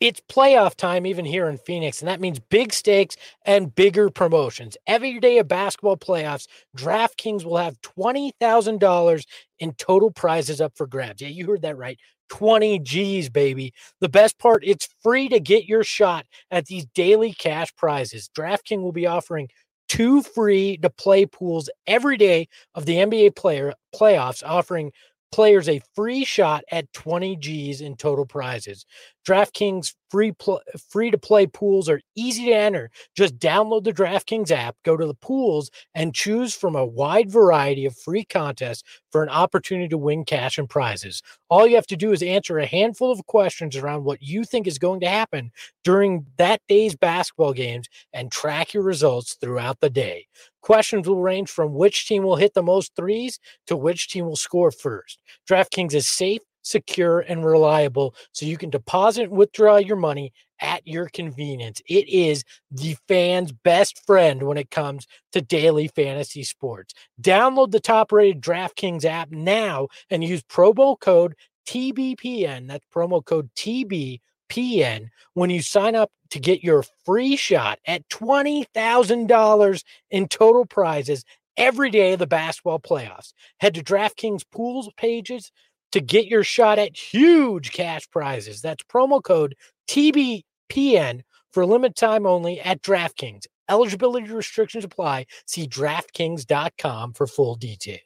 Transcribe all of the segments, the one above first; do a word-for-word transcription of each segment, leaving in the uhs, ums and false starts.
It's playoff time even here in Phoenix, and that means big stakes and bigger promotions. Every day of basketball playoffs, DraftKings will have twenty thousand dollars in total prizes up for grabs. Yeah, you heard that right. twenty G's, baby. The best part, it's free to get your shot at these daily cash prizes. DraftKings will be offering two free to play pools every day of the N B A player playoffs, offering players a free shot at twenty G's in total prizes. DraftKings free pl- free to play pools are easy to enter. Just download the DraftKings app, go to the pools, and choose from a wide variety of free contests for an opportunity to win cash and prizes. All you have to do is answer a handful of questions around what you think is going to happen during that day's basketball games and track your results throughout the day. Questions will range from which team will hit the most threes to which team will score first. DraftKings is safe, secure, and reliable, so you can deposit and withdraw your money at your convenience. It is the fan's best friend when it comes to daily fantasy sports. Download the top-rated DraftKings app now and use promo code T B P N. That's promo code T B P N when you sign up to get your free shot at twenty thousand dollars in total prizes every day of the basketball playoffs. Head to DraftKings pools pages to get your shot at huge cash prizes. That's promo code T B P N for limited time only at DraftKings. Eligibility restrictions apply. See DraftKings dot com for full details.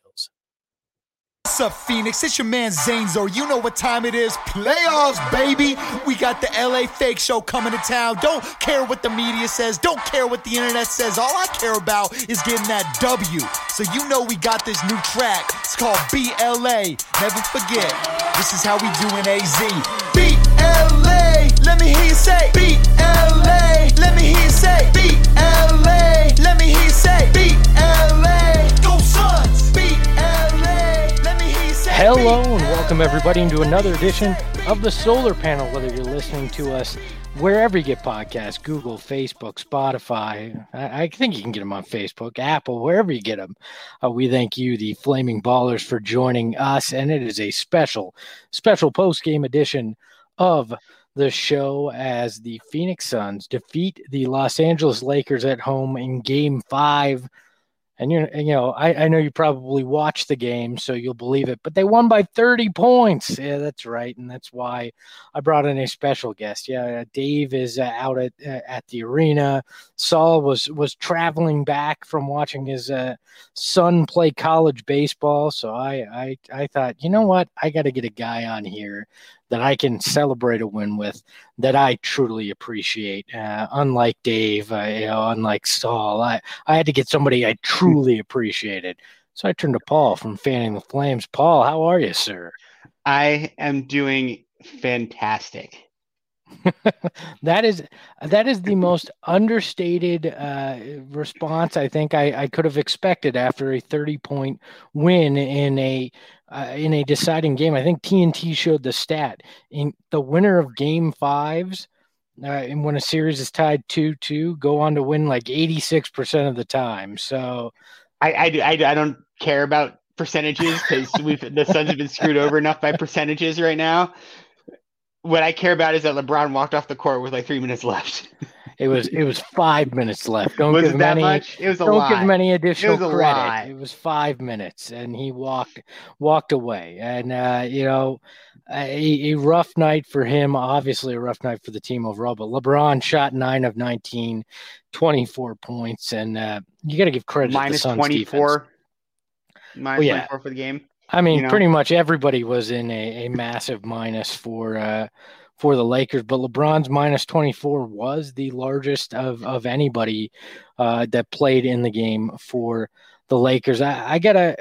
What's up, Phoenix? It's your man Zanezo. You know what time it is. Playoffs, baby. We got the L A Fake Show coming to town. Don't care what the media says. Don't care what the internet says. All I care about is getting that W. So you know we got this new track. It's called B L A. Never forget. This is how we do in A Z. B L A. Let me hear you say. B L A. Let me hear you say. B L A. Let me hear you say. B L A. Go Suns. B L A. Hello and welcome everybody into another edition of the Solar Panel, whether you're listening to us wherever you get podcasts, Google, Facebook, Spotify. I, I think you can get them on Facebook, Apple, wherever you get them. Uh, we thank you, the Flaming Ballers, for joining us, and it is a special, special post-game edition of the show as the Phoenix Suns defeat the Los Angeles Lakers at home in Game five. And, you you know, I, I know you probably watched the game, so you'll believe it. But they won by thirty points. Yeah, that's right. And that's why I brought in a special guest. Yeah, Dave is uh, out at uh, at the arena. Saul was, was traveling back from watching his uh, son play college baseball. So I, I, I thought, you know what? I got to get a guy on here that I can celebrate a win with, that I truly appreciate. Uh, unlike Dave, uh, you know, unlike Saul, I, I had to get somebody I truly appreciated. So I turned to Paul from Fanning the Flames. Paul, how are you, sir? I am doing fantastic. that is that is the most understated uh, response I think I, I could have expected after a thirty-point win in a uh, in a deciding game. I think T N T showed the stat in the winner of Game Fives, uh, and when a series is tied two two, go on to win like eighty-six percent of the time. So I I, I, I don't care about percentages because we've the Suns have been screwed over enough by percentages right now. What I care about is that LeBron walked off the court with like three minutes left. It was it was five minutes left. Don't was give it him that any. Much? It was a don't lot. give him any additional it was a credit. Lot. It was five minutes, and he walked walked away. And uh, you know, a, a rough night for him. Obviously, a rough night for the team overall. But LeBron shot nine of nineteen, twenty-four points, and uh, you got to give credit Minus to the Suns twenty-four. defense. Minus well, yeah. twenty-four for the game. I mean, you know? pretty much everybody was in a, a massive minus for. Uh, for the Lakers, but LeBron's minus twenty-four was the largest of, of anybody uh, that played in the game for the Lakers. I, I gotta,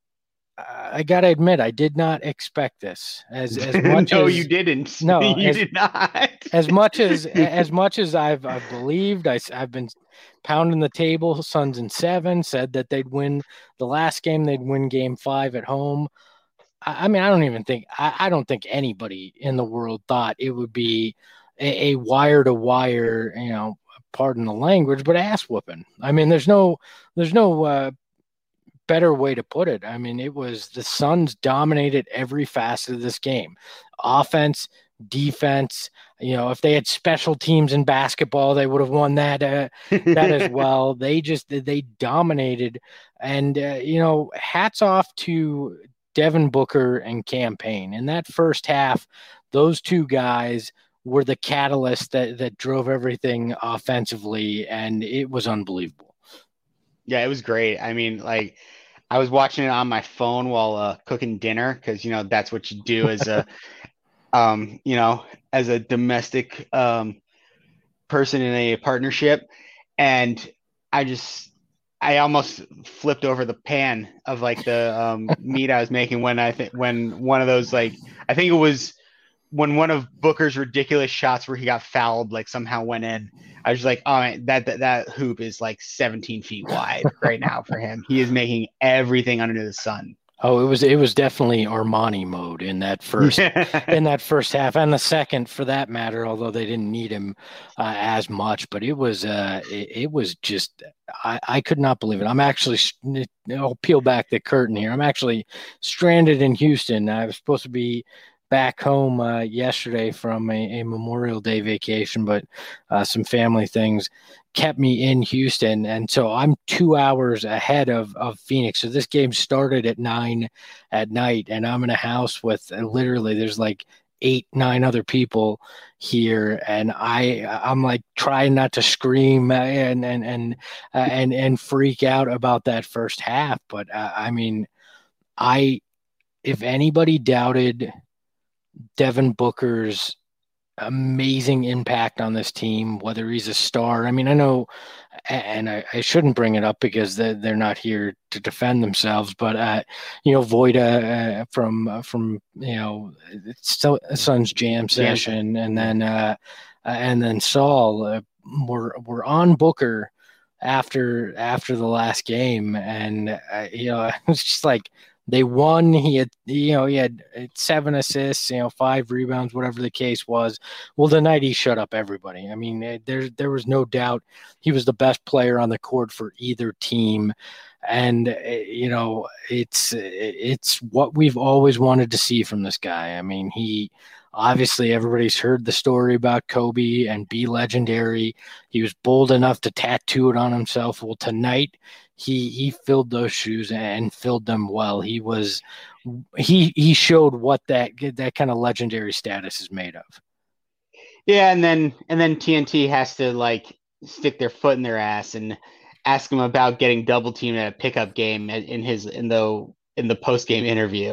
I gotta admit, I did not expect this as as much. no, as, you didn't. No, you as, did not. as much as as much as I've I've believed, I, I've been pounding the table. Suns in seven, said that they'd win the last game. They'd win Game Five at home. I mean, I don't even think I, I don't think anybody in the world thought it would be a, a wire to wire, you know, pardon the language, but ass whooping. I mean, there's no there's no uh, better way to put it. I mean, it was the Suns dominated every facet of this game, offense, defense. You know, if they had special teams in basketball, they would have won that uh, that as well. They just they dominated, and uh, you know, hats off to Devin Booker and Cam Payne. In that first half, those two guys were the catalyst that that drove everything offensively, and it was unbelievable. Yeah, it was great. I mean, like, I was watching it on my phone while uh, cooking dinner because, you know, that's what you do as a um, you know, as a domestic um, person in a partnership. And I just, I almost flipped over the pan of like the um, meat I was making when I think, when one of those, like, I think it was when one of Booker's ridiculous shots where he got fouled, like somehow went in. I was like, oh, man, that, that, that hoop is like seventeen feet wide right now for him. He is making everything under the sun. Oh, it was it was definitely Armani mode in that first in that first half, and the second for that matter. Although they didn't need him uh, as much, but it was uh, it, it was just I, I could not believe it. I'm actually I'll peel back the curtain here. I'm actually stranded in Houston. I was supposed to be back home uh, yesterday from a, a Memorial Day vacation, but uh, some family things kept me in Houston. And so I'm two hours ahead of, of Phoenix. So this game started at nine at night, and I'm in a house with uh, literally there's like eight, nine other people here. And I, I'm like trying not to scream and, and, and, uh, and, and freak out about that first half. But uh, I mean, I, if anybody doubted Devin Booker's amazing impact on this team, whether he's a star. I mean, I know, and I, I shouldn't bring it up because they're, they're not here to defend themselves, but, uh, you know, Voida uh, from, uh, from, you know, Suns jam session, and then, uh, and then Saul uh, were, were on Booker after, after the last game. And, uh, you know, it was just like, they won. He had, you know, he had seven assists, you know, five rebounds, whatever the case was. Well, the night he shut up everybody. I mean, there there was no doubt he was the best player on the court for either team, and you know, it's it's what we've always wanted to see from this guy. I mean, he obviously everybody's heard the story about Kobe and be legendary. He was bold enough to tattoo it on himself. Well, tonight, He he filled those shoes and filled them well. He was he he showed what that that kind of legendary status is made of. Yeah, and then and then T N T has to like stick their foot in their ass and ask him about getting double teamed at a pickup game in his in the in the post game interview.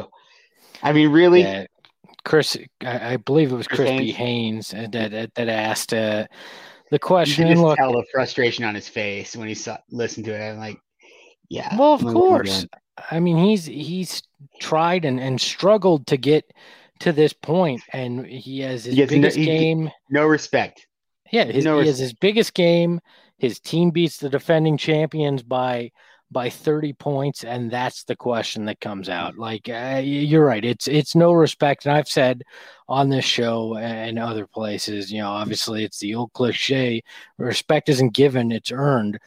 I mean, really, yeah. Chris, I, I believe it was Chris, Chris B. Haynes that that, that asked uh, the question. You can just look, tell the frustration on his face when he saw listened to it. I'm like. Yeah. Well, of course. I mean, he's he's tried and, and struggled to get to this point, and he has his he biggest no, he, game. No respect. Yeah, his, no he res- has his biggest game. His team beats the defending champions by by thirty points, and that's the question that comes out. Like uh, you're right. It's it's no respect, and I've said on this show and other places, you know, obviously it's the old cliche: respect isn't given, it's earned.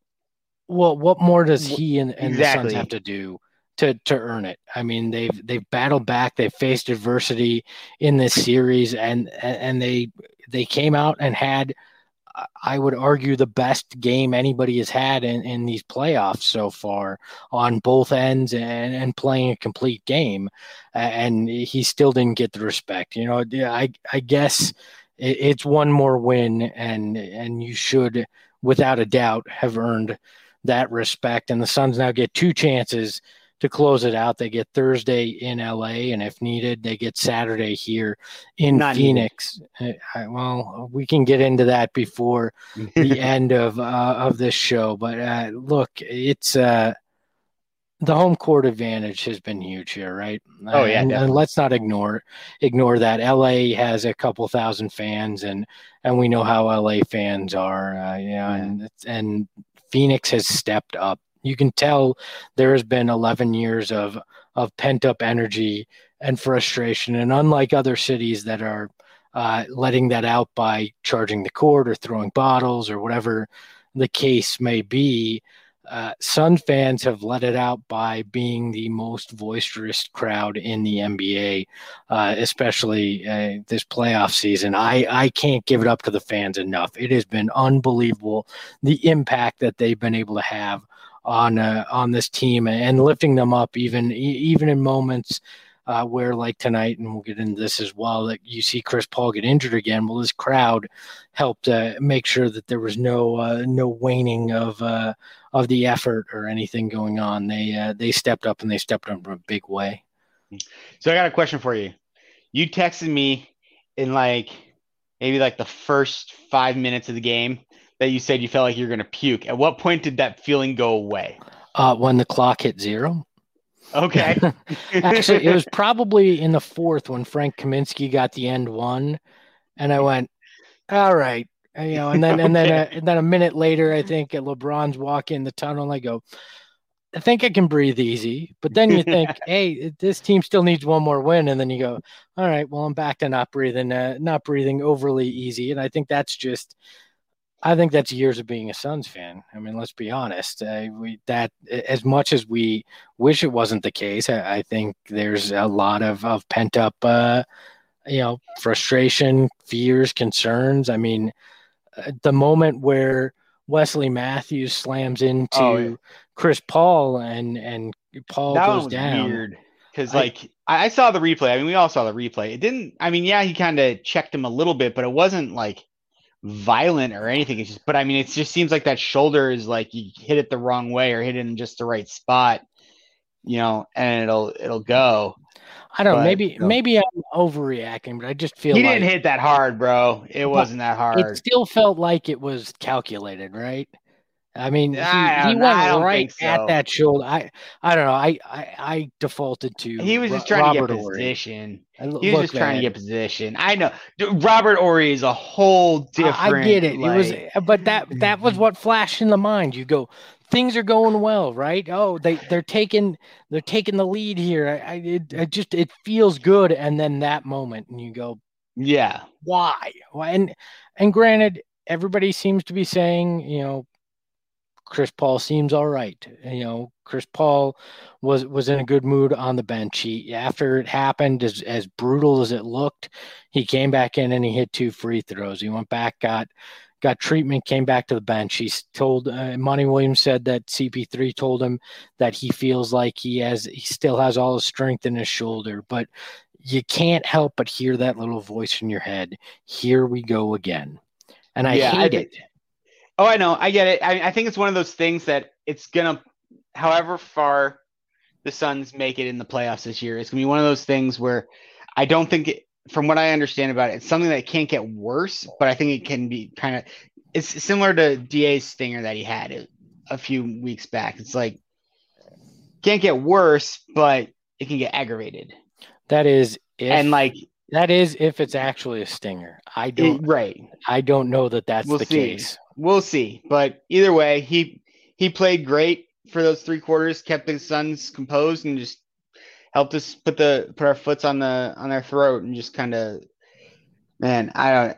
Well, what more does he and, and exactly. the Suns have to do to, to earn it? I mean, they've they've battled back, they've faced adversity in this series, and and they they came out and had, I would argue, the best game anybody has had in, in these playoffs so far on both ends, and, and playing a complete game, and he still didn't get the respect. You know, I I guess it, it's one more win, and and you should, without a doubt, have earned that respect. And the Suns now get two chances to close it out. They get Thursday in L A, and if needed, they get Saturday here in Not Phoenix. I, well, we can get into that before the end of uh, of this show. But uh, look, it's uh, the home court advantage has been huge here, right? Oh yeah, and, and let's not ignore ignore that. L A has a couple thousand fans, and and we know how L A fans are. Uh, you know, yeah. and and Phoenix has stepped up. You can tell there has been eleven years of of pent up energy and frustration. And unlike other cities that are uh, letting that out by charging the court or throwing bottles or whatever the case may be, uh, Sun fans have let it out by being the most boisterous crowd in the N B A, uh, especially uh, this playoff season. I, I can't give it up to the fans enough. It has been unbelievable, the impact that they've been able to have on uh, on this team and lifting them up, even even in moments uh, where, like tonight, and we'll get into this as well, that you see Chris Paul get injured again. Well, this crowd helped uh, make sure that there was no uh, no waning of uh, of the effort or anything going on. They uh, they stepped up and they stepped up in a big way. So I got a question for you. You texted me in like maybe like the first five minutes of the game that you said you felt like you were going to puke. At what point did that feeling go away? Uh, when the clock hit zero. Okay. Actually, it was probably in the fourth when Frank Kaminsky got the end one, and I went, all right. You know, and then and then Okay. uh, and then a minute later, I think at LeBron's walk in the tunnel, and I go, I think I can breathe easy. But then you think, hey, this team still needs one more win, and then you go, all right, well, I'm back to not breathing, uh, not breathing overly easy, and I think that's just, I think that's years of being a Suns fan. I mean, let's be honest. Uh, we that as much as we wish it wasn't the case, I, I think there's a lot of of pent up, uh, you know, frustration, fears, concerns. I mean. The moment where Wesley Matthews slams into Oh, yeah. Chris Paul and and Paul That one goes was down. weird because I- like I, I saw the replay. I mean, we all saw the replay. It didn't. I mean, yeah, he kind of checked him a little bit, but it wasn't like violent or anything. It's just, but I mean, it just seems like that shoulder is like you hit it the wrong way or hit it in just the right spot, you know, and it'll it'll go. I don't know. But, Maybe no. maybe I'm overreacting, but I just feel He like didn't hit that hard, bro. It wasn't that it hard. still felt like it was calculated, right? I mean, he, I he don't- went I don't right think so. at that shoulder. I I don't know. I I, I defaulted to He was Ro- just trying Robert to get Horry. position. I l- He was look, just trying to man, get position. I know. Dude, Robert Ory is a whole different. I I get it. Like, it was, but that that was what flashed in the mind. You go, things are going well, right? Oh, they they're taking they're taking the lead here. I, I it, it just it feels good, and then that moment, and you go, yeah. why? Why? And and granted, everybody seems to be saying, you know, Chris Paul seems all right. You know, Chris Paul was was in a good mood on the bench. He after it happened, as as brutal as it looked, he came back in and he hit two free throws. He went back, got got treatment, came back to the bench. He's told uh, Monty Williams said that C P three told him that he feels like he has he still has all his strength in his shoulder, but you can't help but hear that little voice in your head. Here we go again. And I Yeah, I hate think- it. Oh, I know. I get it. I, I think it's one of those things that it's going to, however far the Suns make it in the playoffs this year, it's going to be one of those things where I don't think, it, from what I understand about it, it's something that can't get worse, but I think it can be kind of, it's similar to D A's stinger that he had a, a few weeks back. It's like, can't get worse, but it can get aggravated. That is if, and like, that is if it's actually a stinger. I it, don't right. I don't know that that's We'll the see. case. We'll see. But either way, he he played great for those three quarters, kept the Suns composed, and just helped us put the put our foots on the on their throat, and just kind of, man, I don't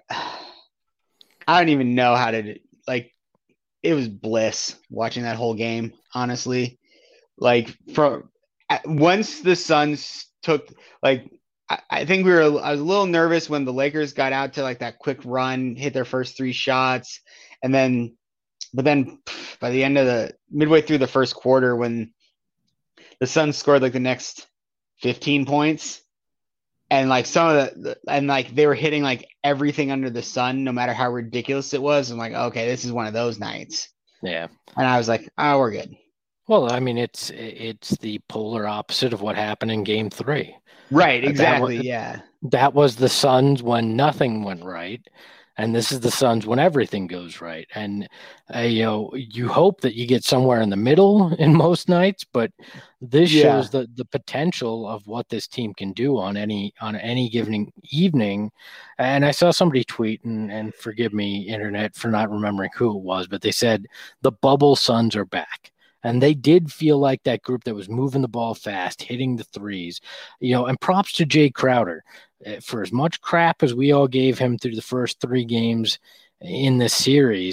I don't even know how to, like, it was bliss watching that whole game, honestly. Like, from once the Suns took, like, I, I think we were I was a little nervous when the Lakers got out to like that quick run, hit their first three shots. And then, but then by the end of the midway through the first quarter, when the Suns scored like the next fifteen points, and like some of the, and like they were hitting like everything under the sun, no matter how ridiculous it was. I'm like, okay, this is one of those nights. Yeah. And I was like, oh, we're good. Well, I mean, it's it's the polar opposite of what happened in Game Three. Right. That Exactly. was- Yeah. That was the Suns when nothing went right, and this is the Suns when everything goes right. And uh, you know, you hope that you get somewhere in the middle in most nights, but this Yeah. shows the the potential of what this team can do on any on any given evening. And I saw somebody tweet, and, and forgive me, internet, for not remembering who it was, but they said the bubble Suns are back. And they did feel like that group that was moving the ball fast, hitting the threes, you know, and props to Jay Crowder. Uh, For as much crap as we all gave him through the first three games in this series,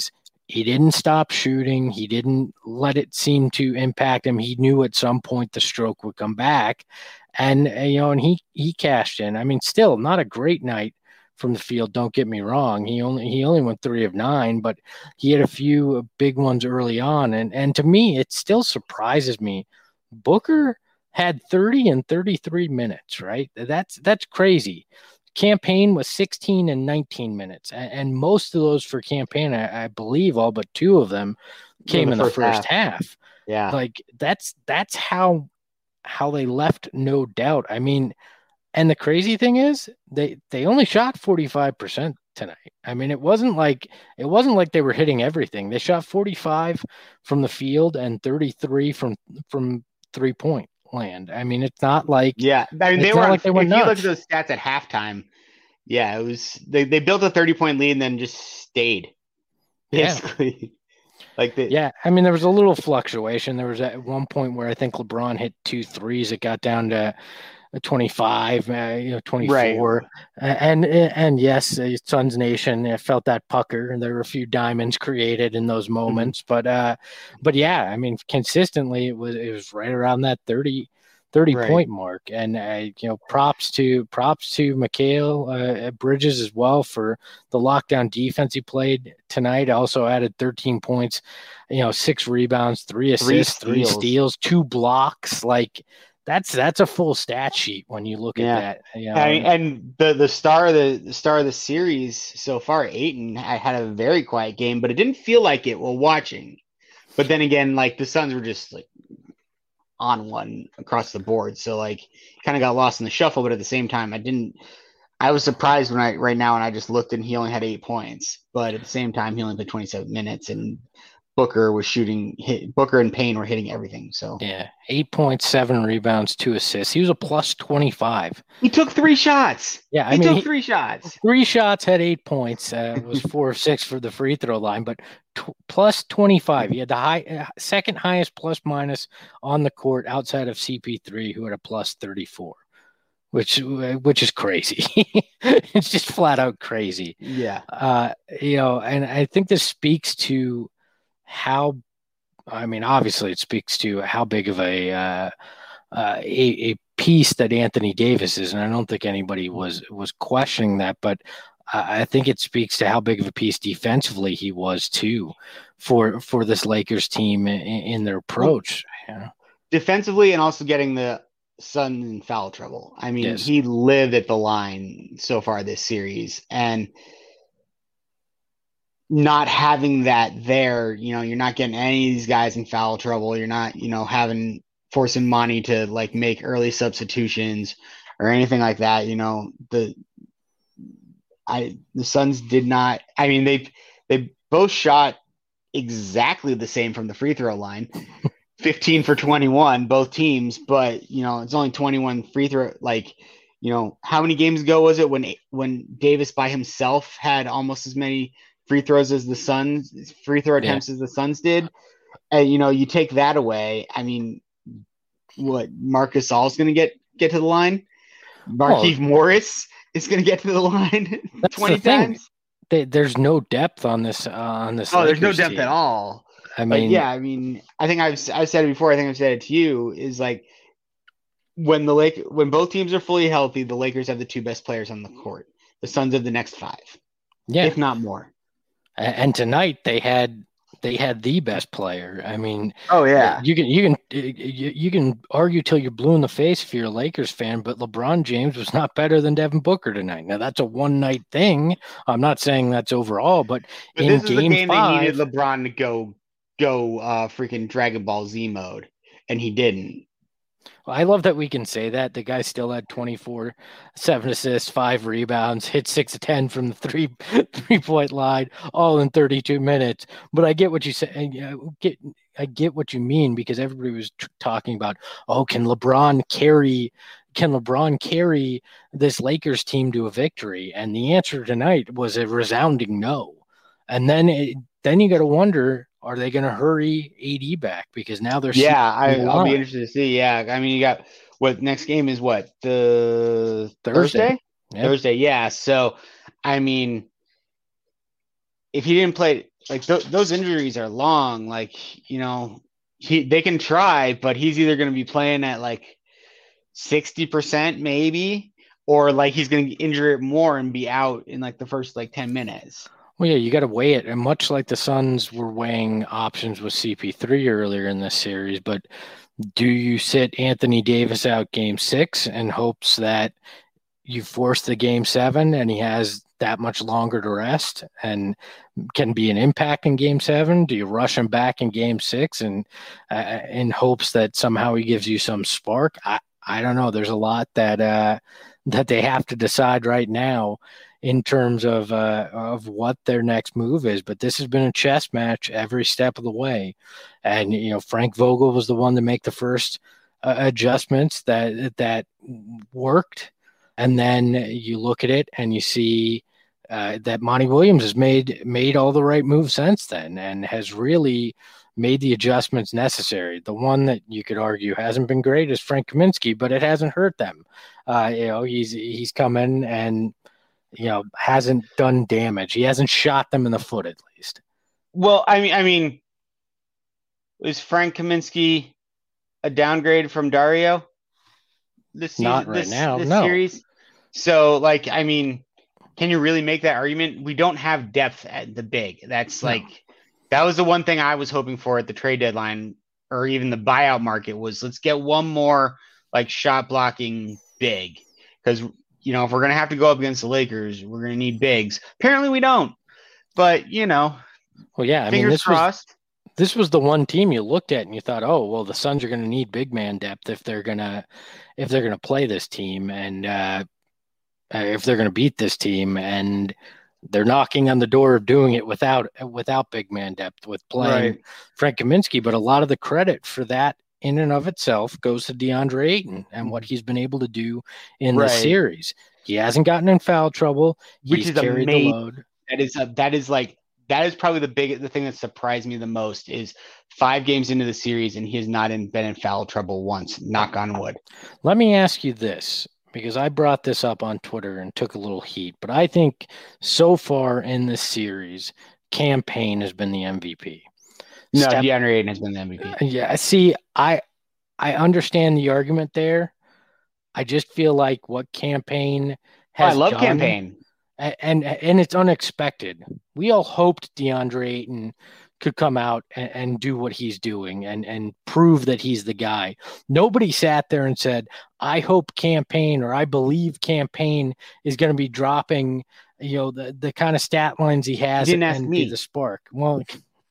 he didn't stop shooting. He didn't let it seem to impact him. He knew at some point the stroke would come back, and you know, and he he cashed in. I mean, still not a great night from the field. Don't get me wrong. He only he only went three of nine, but he had a few big ones early on, and and to me, it still surprises me. Booker had thirty and thirty-three minutes. Right, that's that's crazy. Cam Payne was sixteen and nineteen minutes, and, and most of those for Cam Payne, I, I believe all but two of them came in the, in the first, first half. half. Yeah, like that's that's how how they left no doubt. I mean, and the crazy thing is they they only shot forty-five percent tonight. I mean, it wasn't like it wasn't like they were hitting everything. They shot forty-five from the field and thirty-three from from three point land. I mean, it's not like yeah. I mean, they were like they were. If nuts. You look at those stats at halftime, yeah, it was they, they built a thirty point lead and then just stayed. Basically, yeah. like the, yeah. I mean, there was a little fluctuation. There was at one point where I think LeBron hit two threes. It got down to twenty-five, uh, you know, twenty-four, right. and, and and yes, uh, Suns Nation uh, felt that pucker, and there were a few diamonds created in those moments. Mm-hmm. But uh, but yeah, I mean, consistently it was it was right around that thirty, thirty right. point mark, and uh, you know, props to props to Mikal uh, Bridges as well for the lockdown defense he played tonight. Also added thirteen points, you know, six rebounds, three assists, three steals, three steals two blocks, like. That's that's a full stat sheet when you look yeah. at that. You know? and, and the the star of the, the star of the series so far, Ayton, I had a very quiet game, but it didn't feel like it while watching. But then again, like the Suns were just like on one across the board, so like kind of got lost in the shuffle. But at the same time, I didn't. I was surprised when I right now when I just looked and he only had eight points, but at the same time he only played twenty-seven minutes and. Booker was shooting hit Booker and Payne were hitting everything. So yeah, eight point seven rebounds, two assists. He was a plus twenty-five. He took three shots. Yeah, I he mean, took he, three shots. Three shots, had eight points. Uh, was four of six for the free throw line, but t- plus twenty-five. He had the high uh, second highest plus minus on the court outside of C P three, who had a plus thirty-four. Which which is crazy. It's just flat out crazy. Yeah. Uh, you know, and I think this speaks to how, I mean, obviously it speaks to how big of a, uh, uh, a, a piece that Anthony Davis is. And I don't think anybody was, was questioning that, but I think it speaks to how big of a piece defensively he was too for, for this Lakers team in, in their approach. You know? Defensively and also getting the Suns in foul trouble. I mean, yes. He lived at the line so far this series, and not having that there, you know, you're not getting any of these guys in foul trouble. You're not, you know, having forcing Monty to like make early substitutions or anything like that. You know, the I the Suns did not. I mean, they they both shot exactly the same from the free throw line, fifteen for twenty-one, both teams. But you know, it's only twenty-one free throw. Like, you know, how many games ago was it when when Davis by himself had almost as many free throws as the Suns, free throw attempts yeah. as the Suns did? And you know, you take that away. I mean, what Marc Gasol's going to get get to the line? Markieff oh. Morris is going to get to the line twenty times. They, there's no depth on this uh, on this. Oh, Lakers there's no depth team. at all. I mean, but yeah, I mean, I think I've I've said it before. I think I've said it to you. Is like when the Lake when both teams are fully healthy, the Lakers have the two best players on the court. The Suns have the next five, yeah, if not more. And tonight they had they had the best player. I mean, oh yeah, you can you can you, you can argue till you're blue in the face if you're a Lakers fan, but LeBron James was not better than Devin Booker tonight. Now that's a one night thing. I'm not saying that's overall, but, but in this is game the game five, they needed LeBron to go go uh, freaking Dragon Ball Z mode, and he didn't. I love that we can say that. The guy still had twenty-four, seven assists, five rebounds, hit six of ten from the three three point line, all in thirty-two minutes. But I get what you say. I get, I get what you mean, because everybody was t- talking about, oh, can LeBron carry? Can LeBron carry this Lakers team to a victory? And the answer tonight was a resounding no. And then, it, then you got to wonder, are they going to hurry A D back? Because now they're yeah, I, I'll be interested to see. Yeah, I mean, you got what next game is what the Thursday, Thursday, yep. Thursday. Yeah, so I mean, if he didn't play, like th- those injuries are long. Like, you know, he they can try, but he's either going to be playing at like sixty percent maybe, or like he's going to injure it more and be out in like the first like ten minutes. Well, yeah, you got to weigh it. And much like the Suns were weighing options with C P three earlier in this series, but do you sit Anthony Davis out game six in hopes that you force the game seven and he has that much longer to rest and can be an impact in game seven? Do you rush him back in game six and uh, in hopes that somehow he gives you some spark? I, I don't know. There's a lot that uh, that they have to decide right now in terms of uh, of what their next move is. But this has been a chess match every step of the way. And, you know, Frank Vogel was the one to make the first uh, adjustments that that worked. And then you look at it and you see uh, that Monty Williams has made made all the right moves since then and has really made the adjustments necessary. The one that you could argue hasn't been great is Frank Kaminsky, but it hasn't hurt them. Uh, you know, he's he's come in and, you know, hasn't done damage. He hasn't shot them in the foot, at least. Well, I mean, I mean, is Frank Kaminsky a downgrade from Dario? This season, Not right this, now, this no. series. So, like, I mean, can you really make that argument? We don't have depth at the big. That's like, no. That was the one thing I was hoping for at the trade deadline or even the buyout market was let's get one more like shot blocking big. Because, you know, if we're going to have to go up against the Lakers, we're going to need bigs. Apparently we don't. But, you know, well, yeah, I fingers mean, this crossed. Was, this was the one team you looked at and you thought, oh, well, the Suns are going to need big man depth if they're going to if they're going to play this team and uh, if they're going to beat this team. And they're knocking on the door of doing it without without big man depth with playing right. Frank Kaminsky. But a lot of the credit for that in and of itself goes to DeAndre Ayton and what he's been able to do in right. the series. He hasn't gotten in foul trouble. Which he's is carried amazing. the load. That is a, that is like that is probably the big the thing that surprised me the most is five games into the series and he has not in, been in foul trouble once. Knock on wood. Let me ask you this, because I brought this up on Twitter and took a little heat, but I think so far in this series, Cam Payne has been the M V P. No, Steph, DeAndre Ayton has been the M V P. Yeah, see, I I understand the argument there. I just feel like what Cam Payne has oh, I love done, Cam Payne. And, and and it's unexpected. We all hoped DeAndre Ayton could come out and, and do what he's doing and, and prove that he's the guy. Nobody sat there and said, I hope Cam Payne or I believe Cam Payne is going to be dropping, you know, the, the kind of stat lines he has you didn't and, ask and me. be the spark. Well,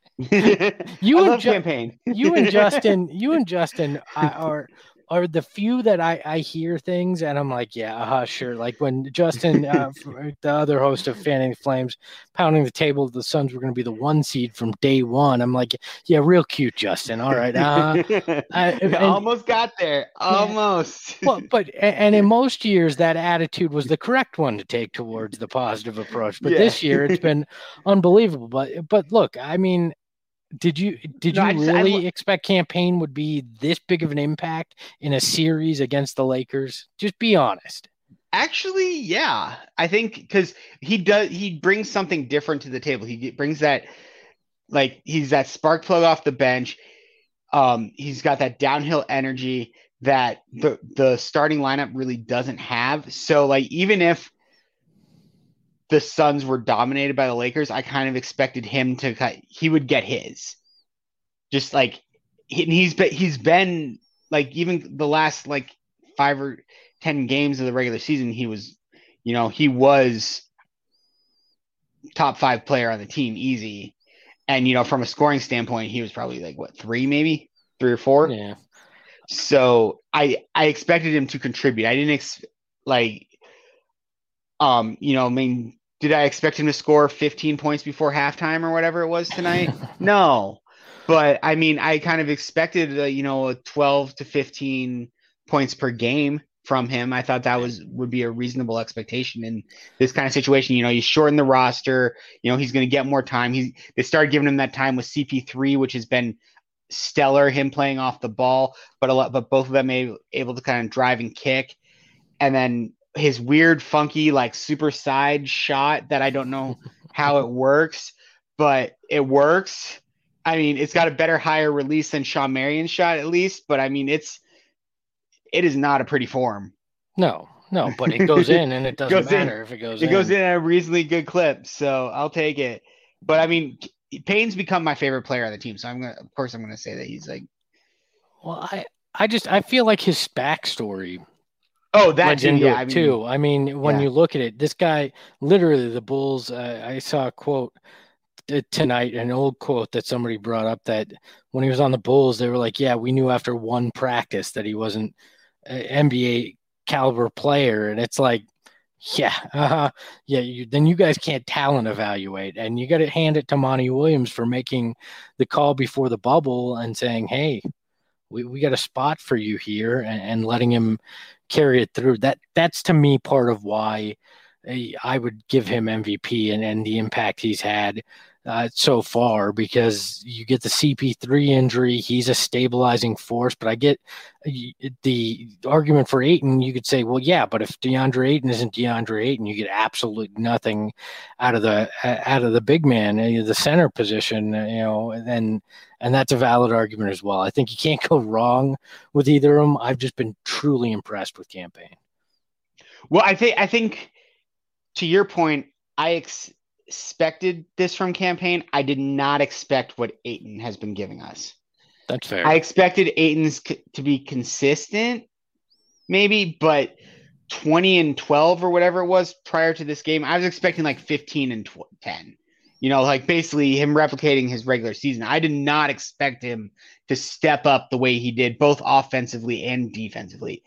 you, and Ju- you and Justin, you and Justin are are the few that I, I hear things and I'm like, yeah, uh, sure. Like when Justin, uh, the other host of Fanning the Flames, pounding the table, the Suns were going to be the one seed from day one. I'm like, yeah, real cute, Justin. All right. Uh, I, and, almost got there. Almost. Yeah. Well, but, and in most years, that attitude was the correct one to take towards the positive approach. But yeah. This year it's been unbelievable. But, but look, I mean, Did you did you no, just, really I, expect Cam Payne would be this big of an impact in a series against the Lakers? Just be honest. Actually, yeah. I think because he does he brings something different to the table. He brings that like he's that spark plug off the bench. Um, he's got that downhill energy that the the starting lineup really doesn't have. So like even if the Suns were dominated by the Lakers, I kind of expected him to he would get his. Just like he, he's been he's been like even the last like five or ten games of the regular season, he was, you know, he was top five player on the team, easy. And you know, from a scoring standpoint, he was probably like what three, maybe three or four. Yeah. So I I expected him to contribute. I didn't ex- like, um, you know, I mean. Did I expect him to score fifteen points before halftime or whatever it was tonight? No. But, I mean, I kind of expected, uh, you know, twelve to fifteen points per game from him. I thought that was would be a reasonable expectation in this kind of situation. You know, you shorten the roster. You know, he's going to get more time. He, they started giving him that time with C P three, which has been stellar, him playing off the ball. But, a lot, but both of them able, able to kind of drive and kick. And then his weird, funky, like super side shot that I don't know how it works, but it works. I mean, it's got a better, higher release than Shawn Marion's shot, at least. But I mean, it's it is not a pretty form. No, no, but it goes in, and it doesn't goes matter in. if it goes it in. It goes in at a reasonably good clip, so I'll take it. But I mean, Payne's become my favorite player on the team, so I'm gonna, of course, I'm gonna say that he's like. Well, I, I just I feel like his backstory. Oh, that too, yeah, I mean, too. I mean, when yeah. you look at it, this guy, literally, the Bulls. Uh, I saw a quote tonight, an old quote that somebody brought up, that when he was on the Bulls, they were like, "Yeah, we knew after one practice that he wasn't an N B A caliber player," and it's like. Yeah, uh, yeah. You, then you guys can't talent evaluate, and you got to hand it to Monty Williams for making the call before the bubble and saying, "Hey, we, we got a spot for you here," and, and letting him carry it through. That that's to me part of why I would give him M V P and, and the impact he's had uh, so far, because you get the C P three injury. He's a stabilizing force, but I get the argument for Ayton. You could say, well, yeah, but if DeAndre Ayton isn't DeAndre Ayton, you get absolutely nothing out of the out of the big man, the center position, you know, and and that's a valid argument as well. I think you can't go wrong with either of them. I've just been truly impressed with Cam Payne. Well, I think I think to your point, I ex- expected this from Cam Payne. I did not expect what Ayton has been giving us. That's fair. I expected Ayton's c- to be consistent, maybe, but twenty and twelve or whatever it was prior to this game, I was expecting like fifteen and ten. You know, like basically him replicating his regular season. I did not expect him to step up the way he did, both offensively and defensively.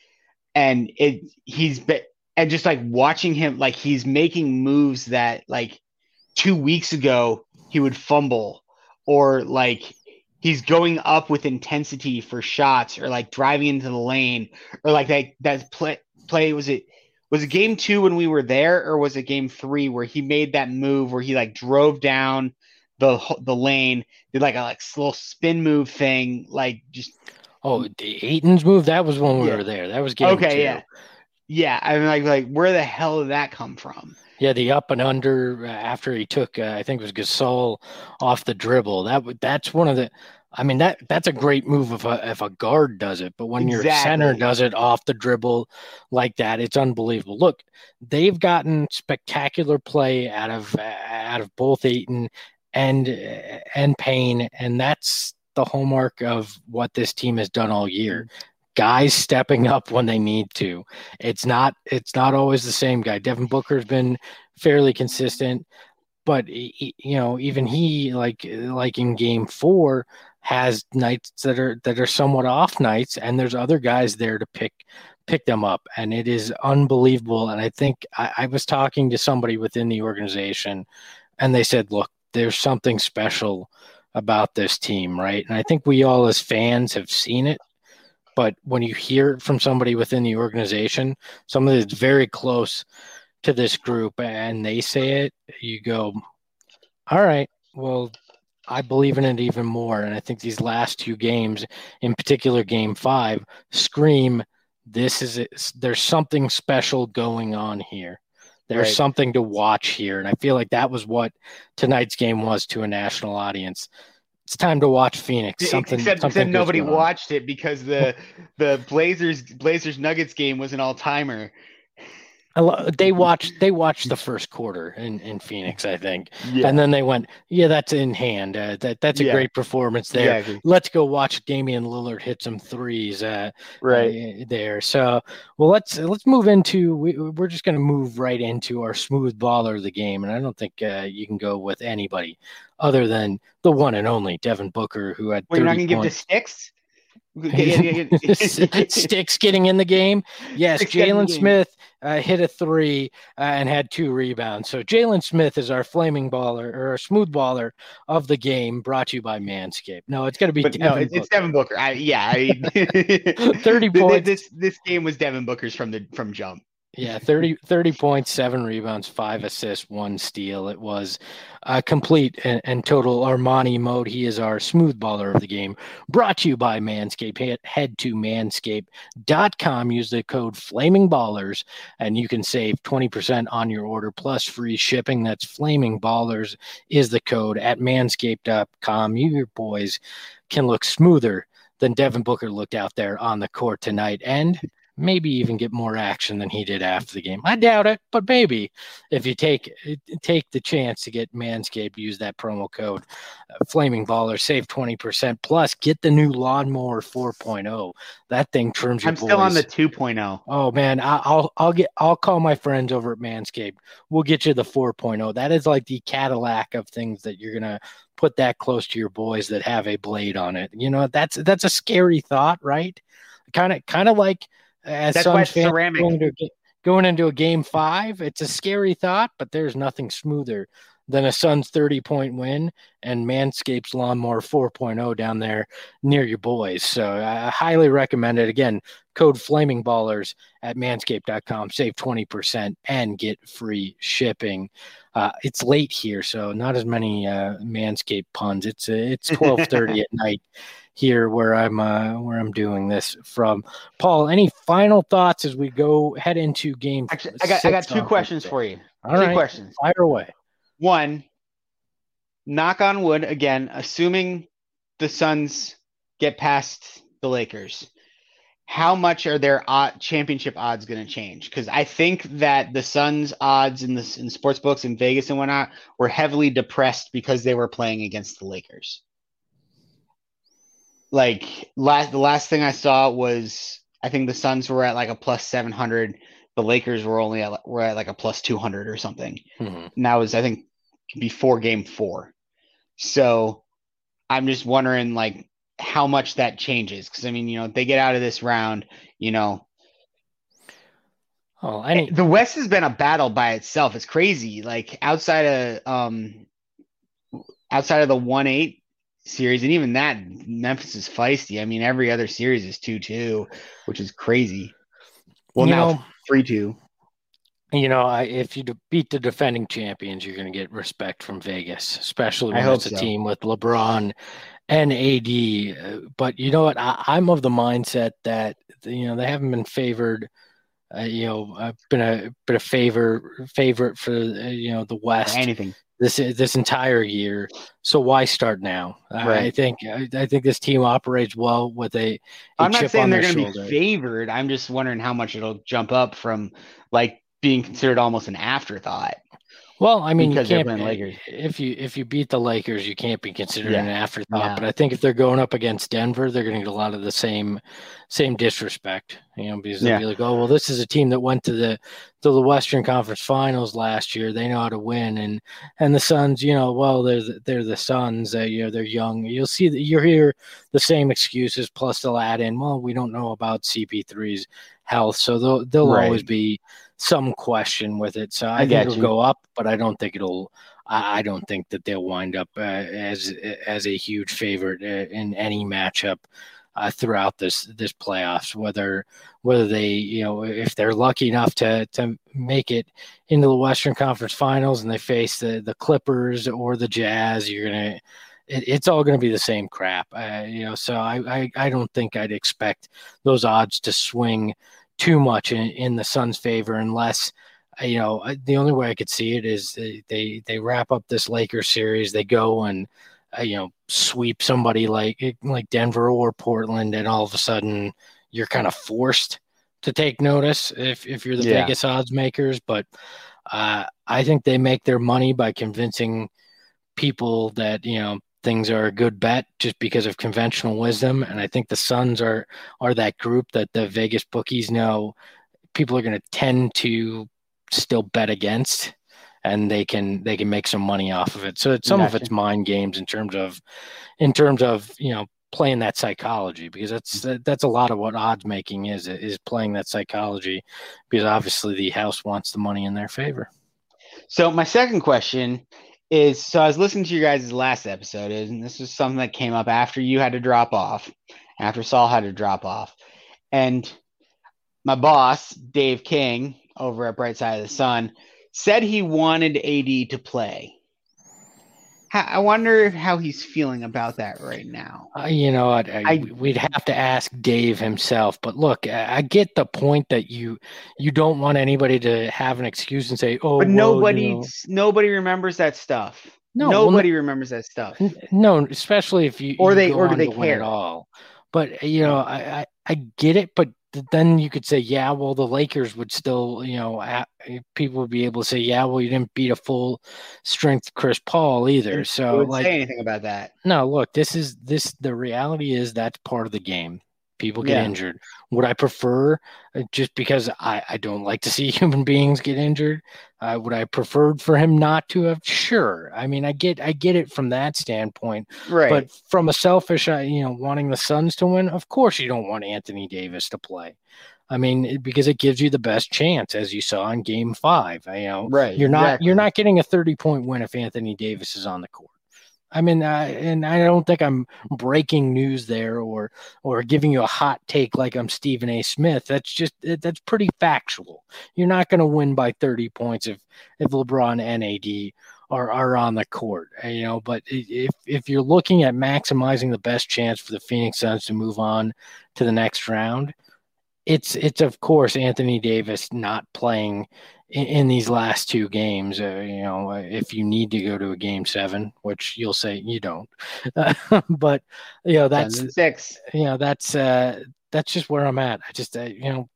And it he's been and just like watching him, like he's making moves that like two weeks ago he would fumble, or like he's going up with intensity for shots, or like driving into the lane, or like that that play play was it was it game two when we were there, or was it game three where he made that move where he like drove down the the lane, did like a like little spin move thing, like just oh the Ayton's move, that was when we yeah. were there. That was game okay, two. yeah. Yeah, I mean, like, like, where the hell did that come from? Yeah, the up and under after he took, uh, I think it was Gasol off the dribble. That that's one of the. I mean, that that's a great move if a if a guard does it, but when exactly. your center does it off the dribble like that, it's unbelievable. Look, they've gotten spectacular play out of uh, out of both Ayton and uh, and Payne, and that's the hallmark of what this team has done all year. Guys stepping up when they need to. It's not it's not always the same guy. Devin Booker's been fairly consistent, but he, you know, even he, like like in game four, has nights that are that are somewhat off nights, and there's other guys there to pick pick them up, and it is unbelievable. And I think I, I was talking to somebody within the organization, and they said, look, there's something special about this team, right? And I think we all as fans have seen it. But when you hear it from somebody within the organization, somebody that's very close to this group, and they say it, you go, all right, well, I believe in it even more. And I think these last two games, in particular game five, scream, this is it. There's something special going on here. There's right. something to watch here. And I feel like that was what tonight's game was to a national audience. It's time to watch Phoenix. Something, except, something except nobody watched it because the the Blazers Blazers Nuggets game was an all timer. They watched they watched the first quarter in, in Phoenix, I think, yeah. and then they went, yeah, that's in hand. Uh, that that's a yeah. great performance there. Yeah, let's go watch Damian Lillard hit some threes. Uh, right uh, there. So, well, let's let's move into. We, we're just going to move right into our smooth baller of the game, and I don't think uh, you can go with anybody other than the one and only Devin Booker, who had. Well, you're not going to give the sticks. Sticks getting in the game. Yes, Jalen Smith uh, hit a three uh, and had two rebounds. So Jalen Smith is our flaming baller or our smooth baller of the game, brought to you by Manscaped. No, it's going to be but Devin no, it's, Booker. it's Devin Booker. I, yeah, I, thirty points. This this game was Devin Booker's from the from jump. Yeah, thirty, thirty points, seven rebounds, five assists, one steal. It was a complete and, and total Armani mode. He is our smooth baller of the game. Brought to you by Manscaped. Head, head to manscaped dot com. Use the code Flaming Ballers, and you can save twenty percent on your order plus free shipping. That's Flaming Ballers is the code at manscaped dot com. You, your boys, can look smoother than Devin Booker looked out there on the court tonight, and maybe even get more action than he did after the game. I doubt it, but maybe if you take take the chance to get Manscaped, use that promo code uh, Flaming Baller, save twenty percent, plus get the new Lawnmower four point oh. That thing trims your I'm boys. still on the two point oh. Oh man, I, I'll I'll get I'll call my friends over at Manscaped. We'll get you the four point oh. That is like the Cadillac of things that you're gonna put that close to your boys that have a blade on it. You know, that's that's a scary thought, right? Kind of kind of like as That's some why it's fans ceramic. Going, to, going into a game five, it's a scary thought, but there's nothing smoother than a Suns thirty-point win and Manscaped's Lawnmower four point oh down there near your boys. So I highly recommend it. Again, code Flaming Ballers at manscaped dot com. Save twenty percent and get free shipping. Uh, it's late here, so not as many uh, Manscaped puns. It's uh, it's twelve thirty at night here where I'm uh, where I'm doing this from. Paul, any final thoughts as we go head into game? Actually, I got I got two questions for you. All two right, questions. Fire away. One, knock on wood again, assuming the Suns get past the Lakers, how much are their odd, championship odds going to change? Because I think that the Suns' odds in the in sports books in Vegas and whatnot were heavily depressed because they were playing against the Lakers. Like last, the last thing I saw was I think the Suns were at like a plus seven hundred. The Lakers were only at were at like a plus two hundred or something. Mm-hmm. And that was I think before game four. So I'm just wondering like how much that changes. Because I mean, you know, if they get out of this round, you know, oh, any the West has been a battle by itself. It's crazy. Like outside of um outside of the one eight series, and even that, Memphis is feisty. I mean, every other series is two two, which is crazy. Well, you now know, three two. You know, I, if you de- beat the defending champions, you're going to get respect from Vegas, especially when I hope it's a so. team with LeBron and A D. Uh, But you know what? I, I'm of the mindset that you know they haven't been favored. Uh, you know, I've been a been a favor favorite for uh, you know the West Anything. this this entire year. So why start now? I, Right. I think I, I think this team operates well with a. a I'm not chip saying on they're their going to shoulder. be favored. I'm just wondering how much it'll jump up from like being considered almost an afterthought. Well, I mean, Because you they're can't playing Lakers. if you if you beat the Lakers, you can't be considered Yeah. an afterthought. No. But I think if they're going up against Denver, they're going to get a lot of the same same disrespect. You know, because they'll Yeah. be like, oh, well, this is a team that went to the to the Western Conference Finals last year. They know how to win, and and the Suns, you know, well, they're the, they're the Suns. Uh, you know, they're young. You'll see that you hear the same excuses. Plus, they'll add in, well, we don't know about C P three's health, so there'll there'll Right. always be some question with it. So I, I think get it'll you. go up, but I don't think it'll. I I don't think that they'll wind up uh, as as a huge favorite uh, in any matchup uh, throughout this this playoffs. Whether whether they you know if they're lucky enough to to make it into the Western Conference Finals and they face the the Clippers or the Jazz, you're gonna. It, it's all going to be the same crap, uh, you know. So I, I I don't think I'd expect those odds to swing too much in, in the Suns' favor unless, you know, the only way I could see it is they they, they wrap up this Lakers series, they go and uh, you know sweep somebody like like Denver or Portland, and all of a sudden you're kind of forced to take notice if if you're the Yeah. Vegas odds makers. But uh, I think they make their money by convincing people that you know things are a good bet just because of conventional wisdom. And I think the Suns are are that group that the Vegas bookies know people are going to tend to still bet against, and they can they can make some money off of it. So it's some of Gotcha. it's mind games in terms of in terms of you know playing that psychology, because that's that's a lot of what odds making is is playing that psychology, because obviously the house wants the money in their favor. So my second question is, so I was listening to your guys' last episode, and this was something that came up after you had to drop off, after Saul had to drop off. And my boss, Dave King, over at Bright Side of the Sun, said he wanted A D to play. I wonder how he's feeling about that right now. Uh, you know, I, I, I- we'd have to ask Dave himself. But look, I, I get the point that you you don't want anybody to have an excuse and say, "Oh, But well, nobody, you know." nobody remembers that stuff. No, well, nobody remembers that stuff. N- No, especially if you Or you they- go or do on they to win it care? all. But you know, I, I I get it. But th- then you could say, yeah, well, the Lakers would still, you know, ha- people would be able to say, yeah, well, you didn't beat a full strength Chris Paul either. And So they would like, say anything about that. no, look, this is this. The reality is that's part of the game. People get Yeah. injured. Would I prefer, uh, just because I, I don't like to see human beings get injured? Uh, would I preferred for him not to have? Sure. I mean, I get I get it from that standpoint. Right. But from a selfish, uh, you know, wanting the Suns to win, of course you don't want Anthony Davis to play. I mean, it- because it gives you the best chance, as you saw in Game Five. You know, Right, You're not exactly. you're not getting a thirty point win if Anthony Davis is on the court. I mean, uh, and I don't think I'm breaking news there or or giving you a hot take like I'm Stephen A. Smith. That's just that's pretty factual. You're not going to win by thirty points if if LeBron and A D are are on the court, you know. But if if you're looking at maximizing the best chance for the Phoenix Suns to move on to the next round, it's it's of course Anthony Davis not playing in, in these last two games. Uh, you know, if you need to go to a game seven, which you'll say you don't, uh, but you know that's Suns and six. you know that's uh, that's just where I'm at. I just uh, you know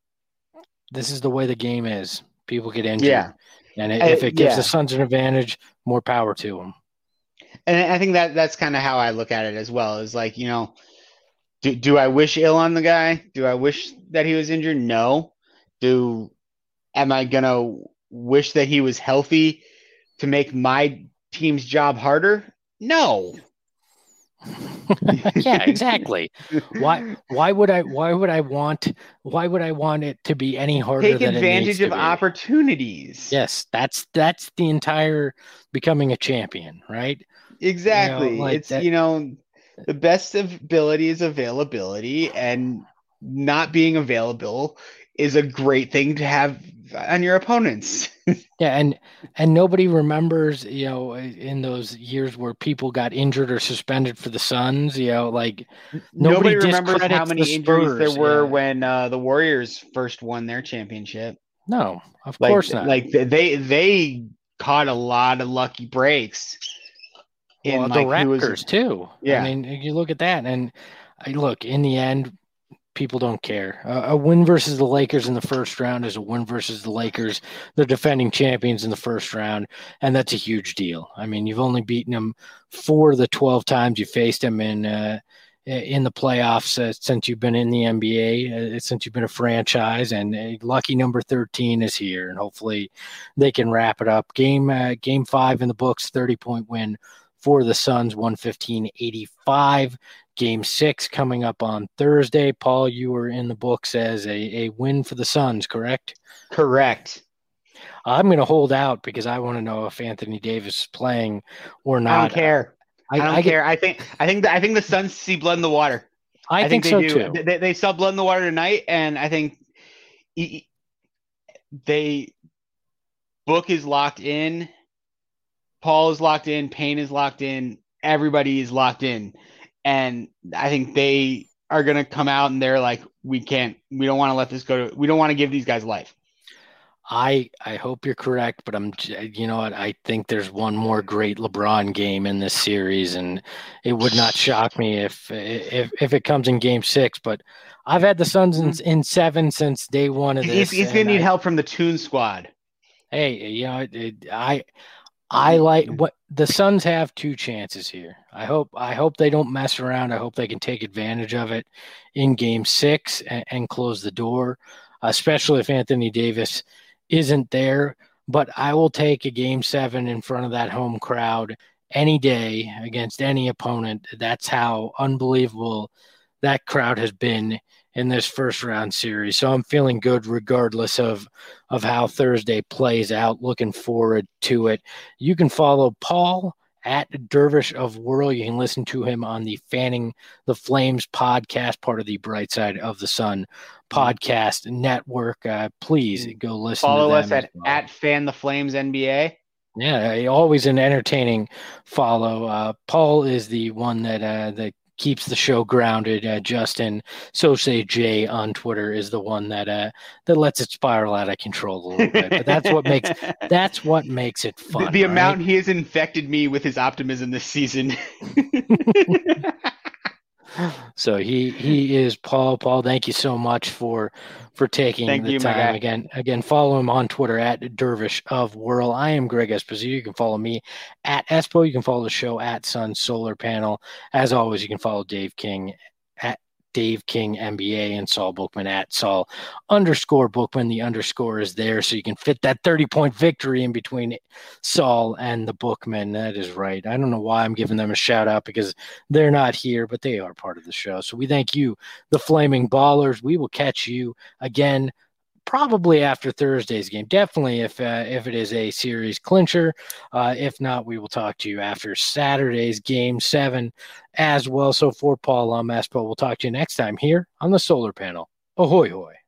this is the way the game is. People get injured, Yeah. and Uh, if it gives yeah. the Suns an advantage, more power to them. And I think that that's kind of how I look at it as well. Is like, you know, do do I wish ill on the guy? Do I wish that he was injured? No. Do am I gonna wish that he was healthy to make my team's job harder? No. Yeah, exactly. Why why would I why would I want why would I want it to be any harder Take than it needs advantage to of be? opportunities. Yes, that's that's the entire becoming a champion, right? Exactly. You know, like it's that- you know, the best ability is availability, and not being available is a great thing to have on your opponents. Yeah, and and nobody remembers, you know, in those years where people got injured or suspended for the Suns, you know, like Nobody, Nobody remembers how discredits many the injuries there Spurs, were yeah. when uh, the Warriors first won their championship. no, of Like, course not. like they they caught a lot of lucky breaks. Well, in the like who was Raptors too. Yeah. I mean, you look at that, and I look in the end, people don't care. Uh, a win versus the Lakers in the first round is a win versus the Lakers, the defending champions in the first round, and that's a huge deal. I mean, you've only beaten them four of the twelve times you faced them in uh, in the playoffs uh, since you've been in the N B A, uh, since you've been a franchise, and uh, lucky number thirteen is here, and hopefully they can wrap it up. Game uh, game five in the books, thirty point win for the Suns, one fifteen eighty-five. Game six coming up on Thursday. Paul, you were in the books as a, a win for the Suns, correct? correct. I'm going to hold out because I want to know if Anthony Davis is playing or not. I don't care. I, don't I, care. I think I think that I think the Suns see blood in the water. I, I think, they so do. too. They, they saw blood in the water tonight, and I think he- they Book is locked in. Paul is locked in. Payne is locked in. Everybody is locked in, and I think they are going to come out and they're like, we can't. We don't want to let this go. To, we don't want to give these guys life. I I hope you're correct, but I'm you know what I think there's one more great LeBron game in this series, and it would not shock me if if if it comes in Game Six. But I've had the Suns in, in seven since day one of this. He's, he's going to need I, help from the Toon Squad. Hey, you know it, I I like what the Suns have two chances here. I hope I hope they don't mess around. I hope they can take advantage of it in Game Six and, and close the door, especially if Anthony Davis isn't there. But I will take a Game Seven in front of that home crowd any day against any opponent. That's how unbelievable that crowd has been in this first round series. So I'm feeling good regardless of of how Thursday plays out. Looking forward to it. You can follow Paul at Dervish of Whirl. You can listen to him on the Fanning the Flames podcast, part of the Bright Side of the Sun podcast network. Uh, please go listen Follow to them us at, well. at Fan the Flames N B A. Yeah, always an entertaining follow. Uh, Paul is the one that uh, that keeps the show grounded. Uh, Justin, so say Jay on Twitter, is the one that uh, that lets it spiral out of control a little bit. But that's what makes that's what makes it fun. The, the right? amount he has infected me with his optimism this season. So he he is Paul. Paul, thank you so much for for taking Thank the you, my time. guy. Again, again, follow him on Twitter at Dervish of Whirl. I am Greg Esposito. You can follow me at Espo. You can follow the show at Sun Solar Panel. As always, you can follow Dave King at Dave King N B A and Saul Bookman at Saul underscore Bookman. The underscore is there so you can fit that thirty point victory in between Saul and the Bookman. That is right. I don't know why I'm giving them a shout out because they're not here, but they are part of the show. So we thank you, the Flaming Ballers. We will catch you again probably after Thursday's game. Definitely if uh, if it is a series clincher. Uh, if not, we will talk to you after Saturday's game seven as well. So for Paul, I'm Espo. We'll talk to you next time here on the Solar Panel. Ahoy, hoy.